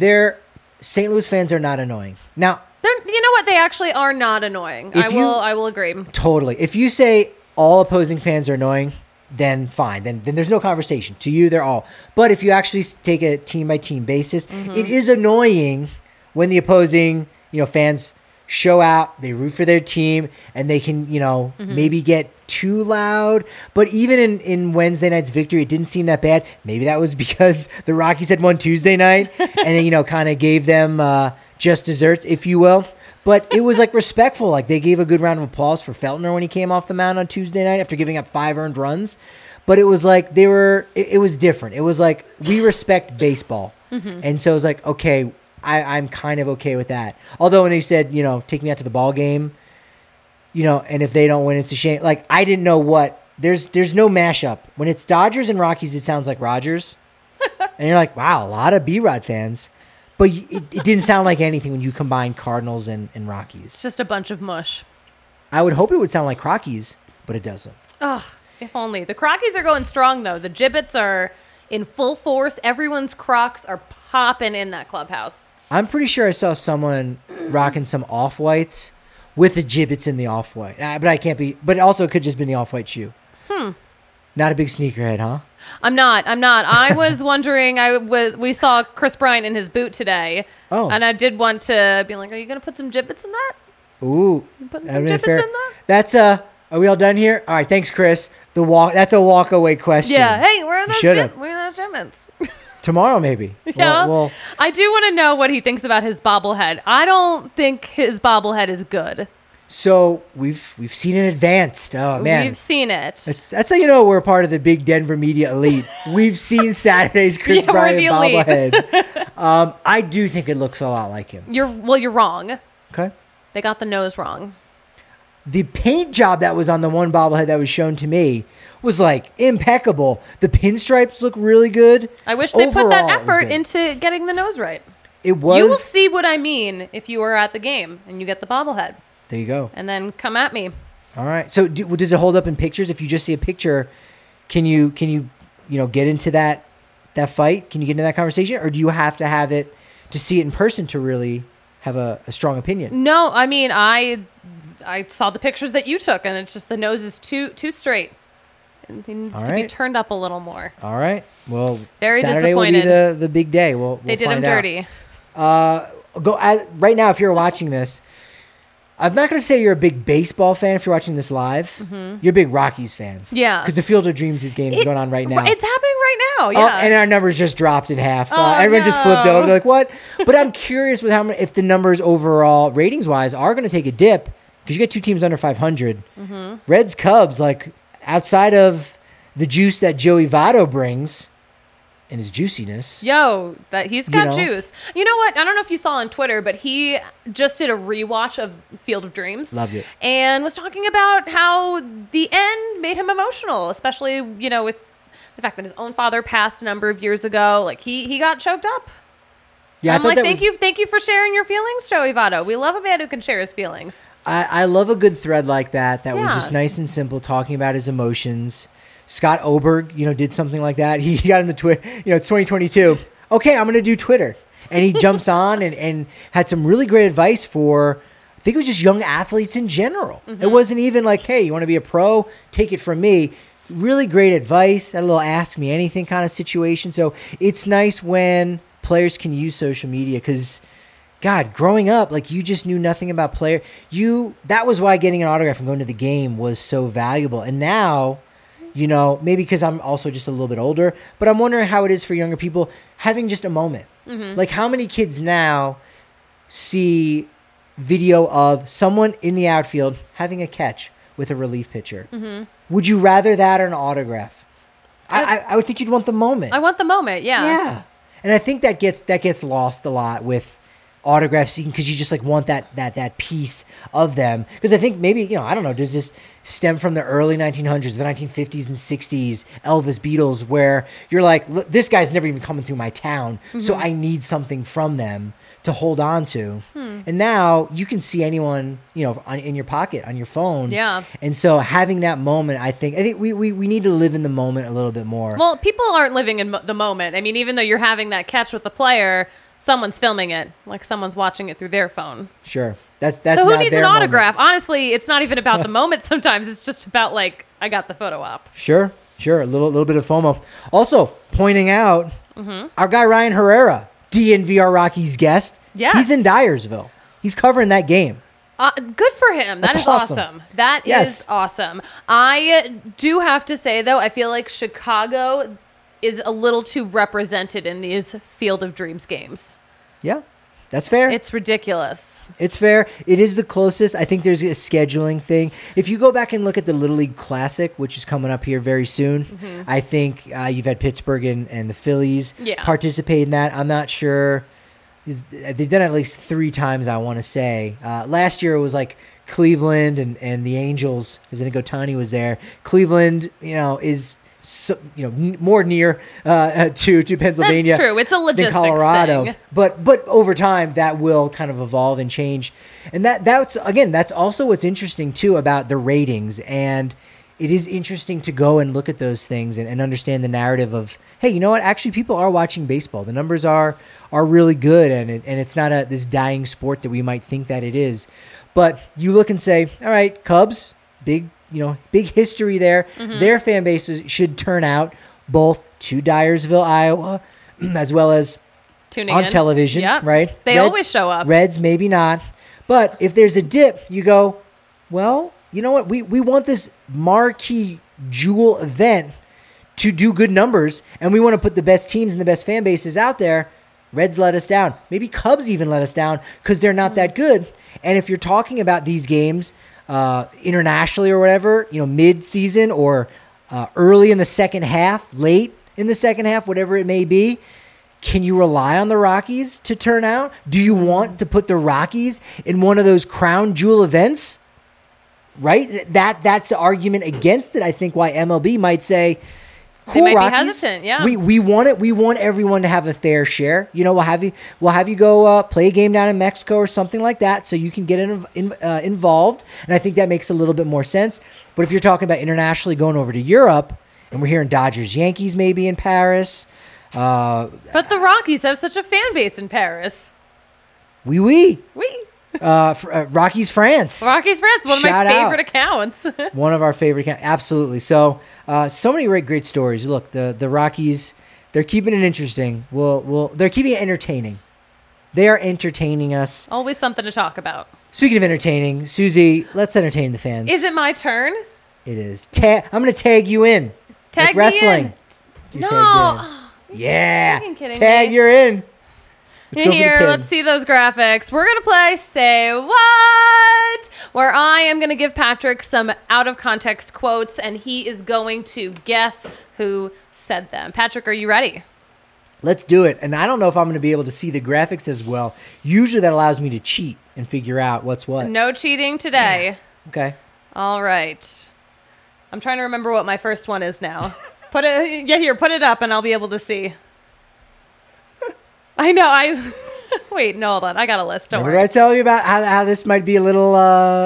St. Louis fans are not annoying. Now, you know what? They actually are not annoying. I will agree. Totally. If you say all opposing fans are annoying, then fine. Then there's no conversation. To you, they're all. But if you actually take a team-by-team basis, it is annoying when the opposing fans show out, they root for their team, and they can maybe get too loud. But even in Wednesday night's victory, it didn't seem that bad. Maybe that was because the Rockies had won Tuesday night and kind of gave them just desserts, if you will. But it was respectful. They gave a good round of applause for Feltner when he came off the mound on Tuesday night after giving up 5 earned runs. But it was it was different. It was we respect baseball. Mm-hmm. And so it was okay, I'm kind of okay with that. Although when they said, take me out to the ball game, and if they don't win, it's a shame. I didn't know what. There's no mashup. When it's Dodgers and Rockies, it sounds like Rogers. And you're like, wow, a lot of B-Rod fans. But it didn't sound like anything when you combine Cardinals and Rockies. It's just a bunch of mush. I would hope it would sound like Crockies, but it doesn't. Oh, if only. The Crockies are going strong, though. The Gibbets are in full force. Everyone's Crocs are popping in that clubhouse. I'm pretty sure I saw someone rocking some off-whites with the Gibbets in the off-white. But I can't be. But also it could just be the off-white shoe. Not a big sneakerhead, huh? I'm not. I was wondering. We saw Chris Bryant in his boot today. Oh. And I did want to be like, are you going to put some Gibbets in that? Ooh. You putting some Gibbets in that? That's are we all done here? All right, thanks, Chris. That's a walk-away question. Yeah. Hey, where are those Gibbets? Tomorrow, maybe. Yeah. Well, I do want to know what he thinks about his bobblehead. I don't think his bobblehead is good. So we've seen it advanced. Oh man, we've seen it. That's how you know we're part of the big Denver media elite. We've seen Saturday's Chris Bryant bobblehead. I do think it looks a lot like him. You're wrong. Okay. They got the nose wrong. The paint job that was on the one bobblehead that was shown to me was like impeccable. The pinstripes look really good. I wish they put that effort into getting the nose right. It was. You will see what I mean if you were at the game and you get the bobblehead. There you go. And then come at me. All right. So does it hold up in pictures? If you just see a picture, can you get into that fight? Can you get into that conversation, or do you have to have it to see it in person to really have a strong opinion? No, I mean I saw the pictures that you took, and it's just the nose is too straight. It needs to be turned up a little more. All right. Well, very Saturday disappointed. Will be the big day. We'll they did him dirty. Right now, if you're watching this, I'm not going to say you're a big baseball fan if you're watching this live. Mm-hmm. You're a big Rockies fan. Yeah. Because the Field of Dreams game is going on right now. It's happening right now, yeah. And our numbers just dropped in half. Everyone just flipped over. They're like, what? But I'm curious with how many, if the numbers overall, ratings-wise, are going to take a dip, because you get two teams under 500. Mm-hmm. Reds, Cubs, like, outside of the juice that Joey Votto brings and his juiciness. Yo, he's got juice. You know what? I don't know if you saw on Twitter, but he just did a rewatch of Field of Dreams. Loved it. And was talking about how the end made him emotional, especially, with the fact that his own father passed a number of years ago. Like, he got choked up. Yeah, I'm like, thank you for sharing your feelings, Joey Votto. We love a man who can share his feelings. I love a good thread like that was just nice and simple, talking about his emotions. Scott Oberg, did something like that. He got in the Twitter, it's 2022. Okay, I'm going to do Twitter. And he jumps on and had some really great advice for, I think it was just young athletes in general. Mm-hmm. It wasn't even like, hey, you want to be a pro? Take it from me. Really great advice. Had a little ask me anything kind of situation. So it's nice when players can use social media, because God, growing up, like, you just knew nothing about that was why getting an autograph and going to the game was so valuable. And now, maybe because I'm also just a little bit older, but I'm wondering how it is for younger people having just a moment. Mm-hmm. Like, how many kids now see video of someone in the outfield having a catch with a relief pitcher? Mm-hmm. Would you rather that or an autograph? I would think you'd want the moment. I want the moment, yeah. Yeah. And I think that gets lost a lot with autographs, because you just like want that piece of them. Because I think maybe, I don't know, does this stem from the early 1900s, the 1950s and 60s, Elvis, Beatles, where you're like, this guy's never even coming through my town, so I need something from them to hold on to. And now you can see anyone, in your pocket, on your phone. Yeah. And so having that moment, I think we need to live in the moment a little bit more. Well, people aren't living in the moment. I mean, even though you're having that catch with the player, someone's filming it, like someone's watching it through their phone. Sure. That's so who needs an autograph? Moment. Honestly, it's not even about the moment sometimes. It's just about, like, I got the photo op. Sure. A little bit of FOMO. Also, pointing out, our guy Ryan Herrera, DNVR Rockies guest. Yes. He's in Dyersville. He's covering that game. Good for him. That is awesome. That is awesome. I do have to say, though, I feel like Chicago is a little too represented in these Field of Dreams games. Yeah, that's fair. It's ridiculous. It's fair. It is the closest. I think there's a scheduling thing. If you go back and look at the Little League Classic, which is coming up here very soon, I think you've had Pittsburgh and the Phillies participate in that. I'm not sure. They've done it at least 3 times, I want to say. Last year it was like Cleveland and the Angels, because I think Ohtani was there. Cleveland, is more near to Pennsylvania. That's true. It's a logistics than Colorado thing. But over time that will kind of evolve and change. And that's also what's interesting too about the ratings. And it is interesting to go and look at those things and understand the narrative of, hey, you know what? Actually, people are watching baseball. The numbers are really good, and it's not this dying sport that we might think that it is. But you look and say, all right, Cubs, big history there. Mm-hmm. Their fan bases should turn out both to Dyersville, Iowa, as well as tuning on television, right? They always show up. Reds, maybe not. But if there's a dip, you go, well, you know what? We want this marquee jewel event to do good numbers, and we want to put the best teams and the best fan bases out there, Reds let us down. Maybe Cubs even let us down because they're not that good. And if you're talking about these games internationally or whatever, mid-season or early in the second half, late in the second half, whatever it may be, can you rely on the Rockies to turn out? Do you want to put the Rockies in one of those crown jewel events? Right? That's the argument against it. I think why MLB might say, cool, they might Rockies, be hesitant, yeah. We want it. We want everyone to have a fair share. We'll have you go play a game down in Mexico or something like that, so you can get involved. And I think that makes a little bit more sense. But if you're talking about internationally going over to Europe, and we're hearing Dodgers, Yankees maybe in Paris, but the Rockies have such a fan base in Paris. Oui. Rockies France. Rockies France, one of my favorite accounts. One of our favorite accounts, absolutely. So, so many great stories. Look, the Rockies, they're keeping it interesting. They're keeping it entertaining. They are entertaining us. Always something to talk about. Speaking of entertaining, Susie, let's entertain the fans. Is it my turn? It is. I'm going to tag you in. Tag like wrestling. Me in. No. Yeah. You're kidding tag me. You're in. Let's see those graphics. We're going to play Say What, where I am going to give Patrick some out-of-context quotes, and he is going to guess who said them. Patrick, are you ready? Let's do it. And I don't know if I'm going to be able to see the graphics as well. Usually that allows me to cheat and figure out what's what. No cheating today. Yeah. Okay. All right. I'm trying to remember what my first one is now. Put it up, and I'll be able to see. I know. Wait, no, hold on. I got a list. Don't worry. Did I tell you about how this might be a little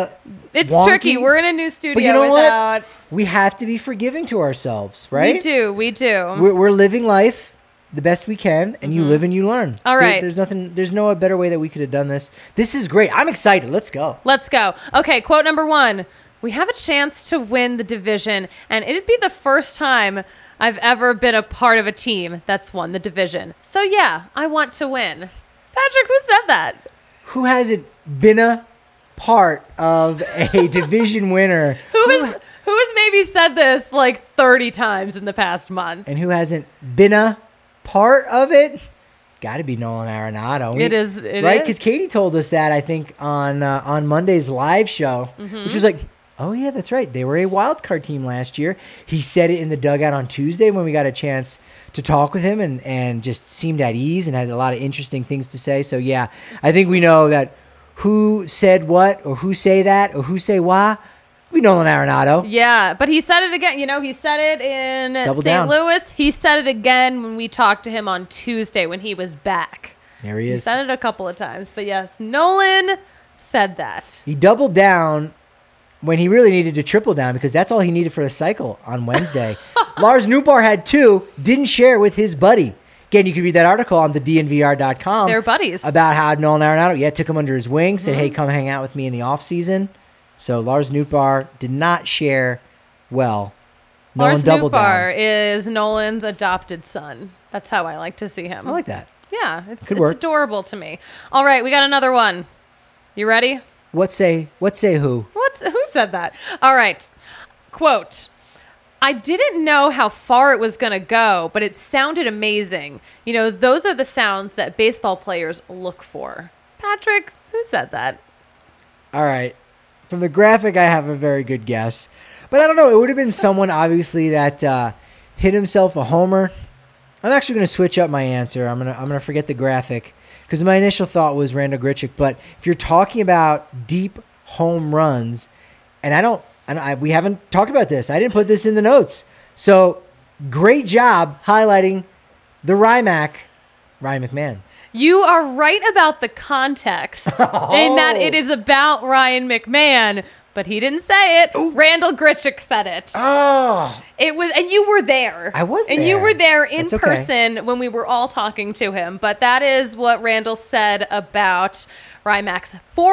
It's wonky? tricky. We're in a new studio. But you know what? We have to be forgiving to ourselves, right? We do. We're living life the best we can, and you live and you learn. All right. There's no better way that we could have done this. This is great. I'm excited. Let's go. Okay, quote number 1. We have a chance to win the division, and it'd be the first time I've ever been a part of a team that's won the division. So yeah, I want to win. Patrick, who said that? Who hasn't been a part of a division winner? Who has maybe said this like 30 times in the past month? And who hasn't been a part of it? Got to be Nolan Arenado. It is right? Because Katie told us that, I think, on Monday's live show, which was like, oh, yeah, that's right. They were a wild card team last year. He said it in the dugout on Tuesday when we got a chance to talk with him and just seemed at ease and had a lot of interesting things to say. So, yeah, I think we know that who said what or who say that or who say why. We know Nolan Arenado. Yeah, but he said it again. He said it in St. Louis. He said it again when we talked to him on Tuesday when he was back. There he is. He said it a couple of times. But, yes, Nolan said that. He doubled down when he really needed to triple down because that's all he needed for a cycle on Wednesday. Lars Nootbaar had 2, didn't share with his buddy. Again, you can read that article on the DNVR.com. They're buddies. About how Nolan Arenado, took him under his wing, said, hey, come hang out with me in the offseason. So Lars Nootbaar did not share well. Lars Nootbaar is Nolan's adopted son. That's how I like to see him. I like that. Yeah, it's adorable to me. All right, we got another one. You ready? What say who? Who said that? All right. Quote, I didn't know how far it was going to go, but it sounded amazing. Those are the sounds that baseball players look for. Patrick, who said that? All right. From the graphic, I have a very good guess. But I don't know. It would have been someone, obviously, that hit himself a homer. I'm actually going to switch up my answer. I'm gonna forget the graphic because my initial thought was Randal Grichuk. But if you're talking about deep home runs, and we haven't talked about this. I didn't put this in the notes. So great job highlighting the Ryan McMahon. You are right about the context in that it is about Ryan McMahon, but he didn't say it. Ooh. Randal Grichuk said it. Oh. It was, and you were there. I was there. And you were there in person when we were all talking to him. But that is what Randal said about Ryan-Mac's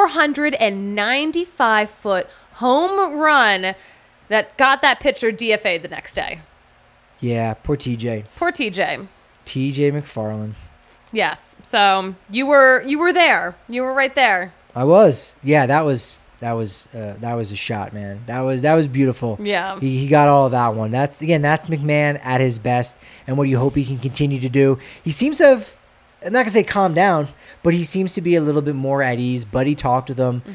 495-foot home run that got that pitcher DFA'd the next day. Yeah, poor TJ. TJ McFarland. Yes. So you were there. You were right there. I was. Yeah, that was was a shot, man. That was beautiful. Yeah. He got all of that one. That's McMahon at his best, and what you hope he can continue to do. He seems to have, I'm not gonna say calm down, but he seems to be a little bit more at ease. Buddy talked with him.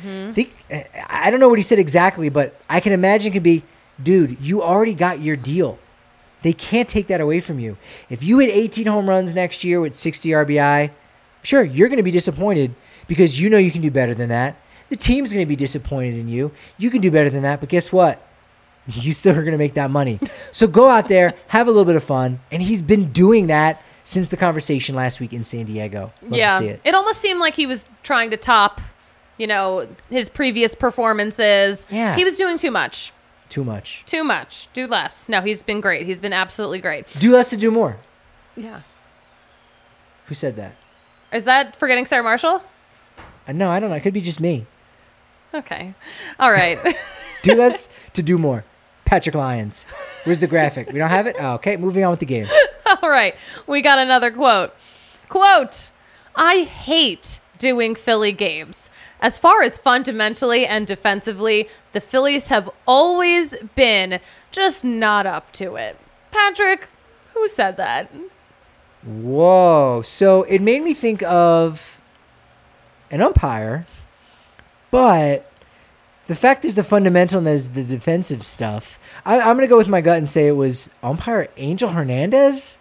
I don't know what he said exactly, but I can imagine it could be, dude, you already got your deal. They can't take that away from you. If you hit 18 home runs next year with 60 RBI, sure, you're going to be disappointed because you know you can do better than that. The team's going to be disappointed in you. You can do better than that, but guess what? You still are going to make that money. So go out there, have a little bit of fun, and he's been doing that since the conversation last week in San Diego. Love to see it. It almost seemed like he was trying to top, his previous performances. Yeah. He was doing too much. Too much. Do less. No, he's been great. He's been absolutely great. Do less to do more. Yeah. Who said that? Is that forgetting Sarah Marshall? No, I don't know. It could be just me. Okay. All right. Do less to do more. Patrick Lyons. Where's the graphic? We don't have it? Oh, okay, moving on with the game. All right. We got another quote. Quote, I hate doing Philly games. As far as fundamentally and defensively, the Phillies have always been just not up to it. Patrick, who said that? Whoa. So it made me think of an umpire, but the fact there's the fundamental and there's the defensive stuff. I'm going to go with my gut and say it was umpire Angel Hernandez.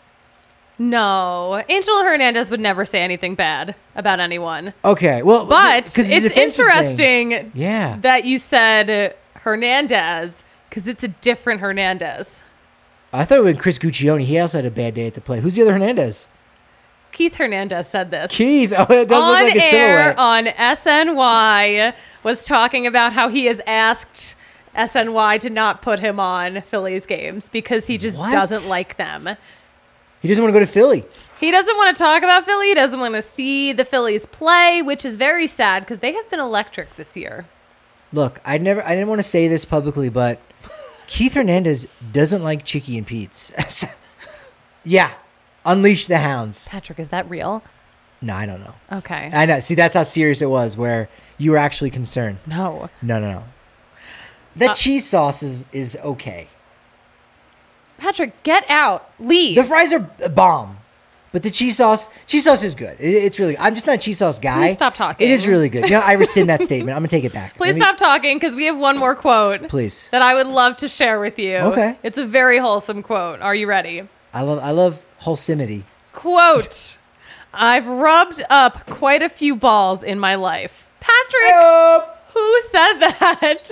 No, Angel Hernandez would never say anything bad about anyone. Okay, well, but it's interesting thing. that you said Hernandez because it's a different Hernandez. I thought it was Chris Guccione. He also had a bad day at the plate. Who's the other Hernandez? Keith Hernandez said this. Keith, oh, it does look like a silhouette. On SNY was talking about how he has asked SNY to not put him on Phillies games because he just doesn't like them. He doesn't want to go to Philly. He doesn't want to talk about Philly. He doesn't want to see the Phillies play, which is very sad because they have been electric this year. Look, I didn't want to say this publicly, but Keith Hernandez doesn't like Chicky and Pete's. Yeah. Unleash the hounds. Patrick, is that real? No, I don't know. Okay. I know. See, that's how serious it was, where you were actually concerned. No. No. The cheese sauce is okay. Patrick, get out. Leave. The fries are a bomb. But the cheese sauce is good. It's really good. I'm just not a cheese sauce guy. Please stop talking. It is really good. I rescind that statement. I'm going to take it back. Please stop talking because we have one more quote. Please. That I would love to share with you. Okay. It's a very wholesome quote. Are you ready? I love wholesomeity. Quote, I've rubbed up quite a few balls in my life. Patrick, who said that?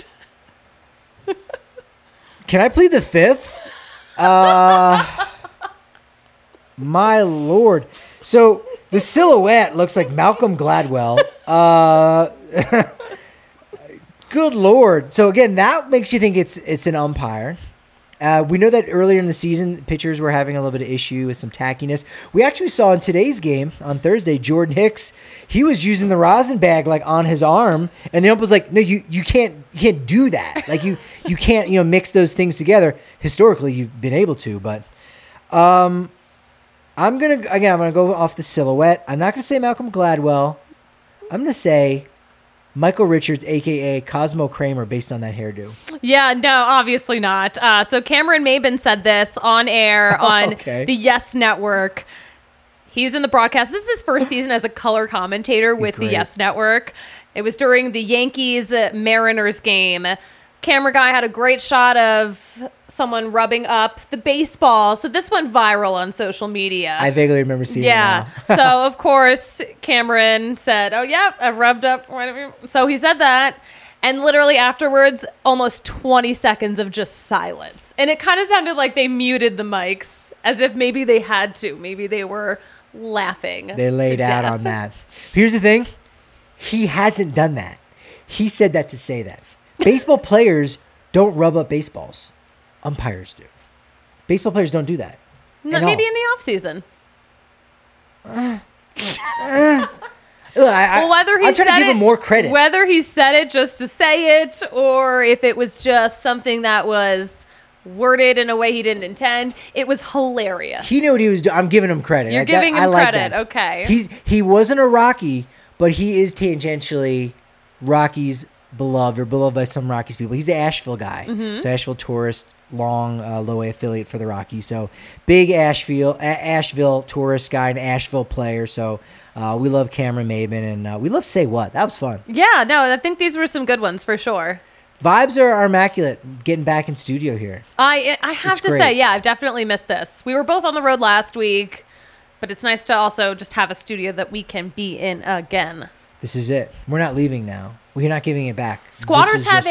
Can I plead the fifth? My Lord. So the silhouette looks like Malcolm Gladwell. Good Lord. So again, that makes you think it's an umpire. We know that earlier in the season, pitchers were having a little bit of issue with some tackiness. We actually saw in today's game on Thursday, Jordan Hicks, he was using the rosin bag like on his arm, and the ump was like, "No, you can't do that. Like you can't mix those things together." Historically, you've been able to, but I'm gonna go off the silhouette. I'm not gonna say Malcolm Gladwell. I'm gonna say Michael Richards, a.k.a. Cosmo Kramer, based on that hairdo. Yeah, no, obviously not. So Cameron Maben said this on air on the Yes Network. He's in the broadcast. This is his first season as a color commentator with the Yes Network. It was during the Yankees-Mariners game. Camera guy had a great shot of someone rubbing up the baseball. So this went viral on social media. I vaguely remember seeing it now. So, of course, Cameron said, "Oh, yeah, I've rubbed up." So he said that. And literally afterwards, almost 20 seconds of just silence. And it kind of sounded like they muted the mics as if maybe they had to. Maybe they were laughing. They laid out on that. Here's the thing. He hasn't done that. He said that to say that. Baseball players don't rub up baseballs. Umpires do. Baseball players don't do that. No, maybe in the off season. I'm whether he I'm trying to give him more credit. Whether he said it just to say it, or if it was just something that was worded in a way he didn't intend, it was hilarious. He knew what he was doing. I'm giving him credit. You're giving him credit. Okay. He wasn't a Rocky, but he is tangentially Rocky's beloved by some Rockies people. He's the Asheville guy. Mm-hmm. So Asheville Tourist, long low A affiliate for the Rockies. So big Asheville tourist guy and Asheville player. So we love Cameron Maben, and we love Say What. That was fun. Yeah, no, I think these were some good ones for sure. Vibes are immaculate getting back in studio here. I have to say, yeah, I've definitely missed this. We were both on the road last week, but it's nice to also just have a studio that we can be in again. This is it. We're not leaving now. We're not giving it back. Squatters have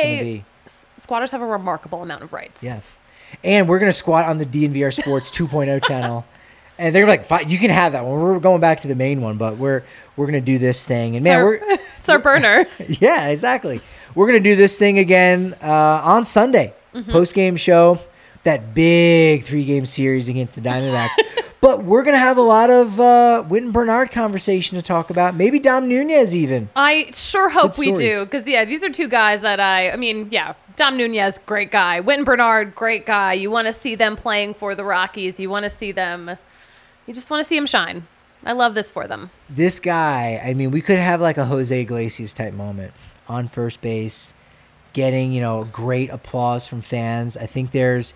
a remarkable amount of rights. Yeah. And we're going to squat on the DNVR Sports 2.0 channel. And they're like, fine, you can have that one. We're going back to the main one, but we're going to do this thing. And it's our burner. Yeah, exactly. We're going to do this thing again on Sunday. Mm-hmm. Post-game show, that big 3-game series against the Diamondbacks. But we're going to have a lot of Whit and Bernard conversation to talk about. Maybe Dom Nunez even. I sure hope we do. Because, these are two guys that Dom Nunez, great guy. Whit and Bernard, great guy. You want to see them playing for the Rockies. You want to see them... You just want to see him shine. I love this for them. This guy, we could have like a Jose Iglesias type moment on first base, getting, great applause from fans. I think there's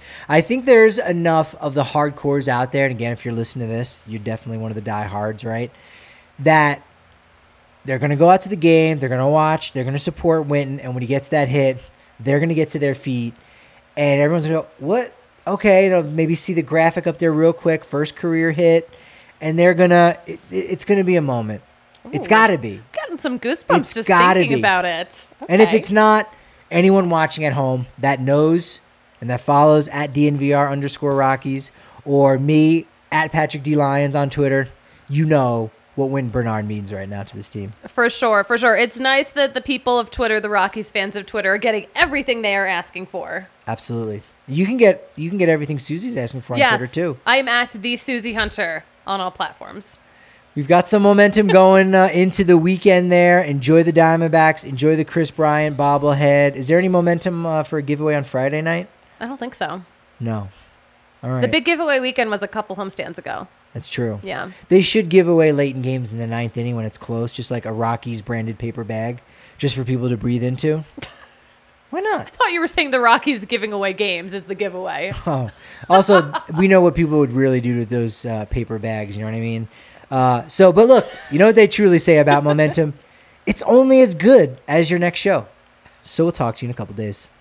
enough of the hardcores out there. And again, if you're listening to this, you're definitely one of the diehards, right? That they're going to go out to the game, they're going to watch, they're going to support Winton, and when he gets that hit, they're going to get to their feet, and everyone's going to go, what? Okay, they'll maybe see the graphic up there real quick, first career hit, and they're gonna. It's gonna be a moment. Ooh, it's got to be. Gotten some goosebumps just thinking about it. Okay. And if it's not, anyone watching at home that knows and that follows at DNVR_Rockies or me at Patrick D Lyons on Twitter, you know what Wynn Bernard means right now to this team. For sure. It's nice that the people of Twitter, the Rockies fans of Twitter, are getting everything they are asking for. Absolutely. You can get everything Susie's asking for on Twitter too. I'm at the Susie Hunter on all platforms. We've got some momentum going into the weekend there. Enjoy the Diamondbacks. Enjoy the Chris Bryant bobblehead. Is there any momentum for a giveaway on Friday night? I don't think so. No. All right. The big giveaway weekend was a couple homestands ago. That's true. Yeah. They should give away late in games in the 9th inning when it's close, just like a Rockies branded paper bag, just for people to breathe into. Why not? I thought you were saying the Rockies giving away games is the giveaway. Oh. Also, we know what people would really do to those paper bags, you know what I mean? But look, you know what they truly say about momentum? It's only as good as your next show. So we'll talk to you in a couple days.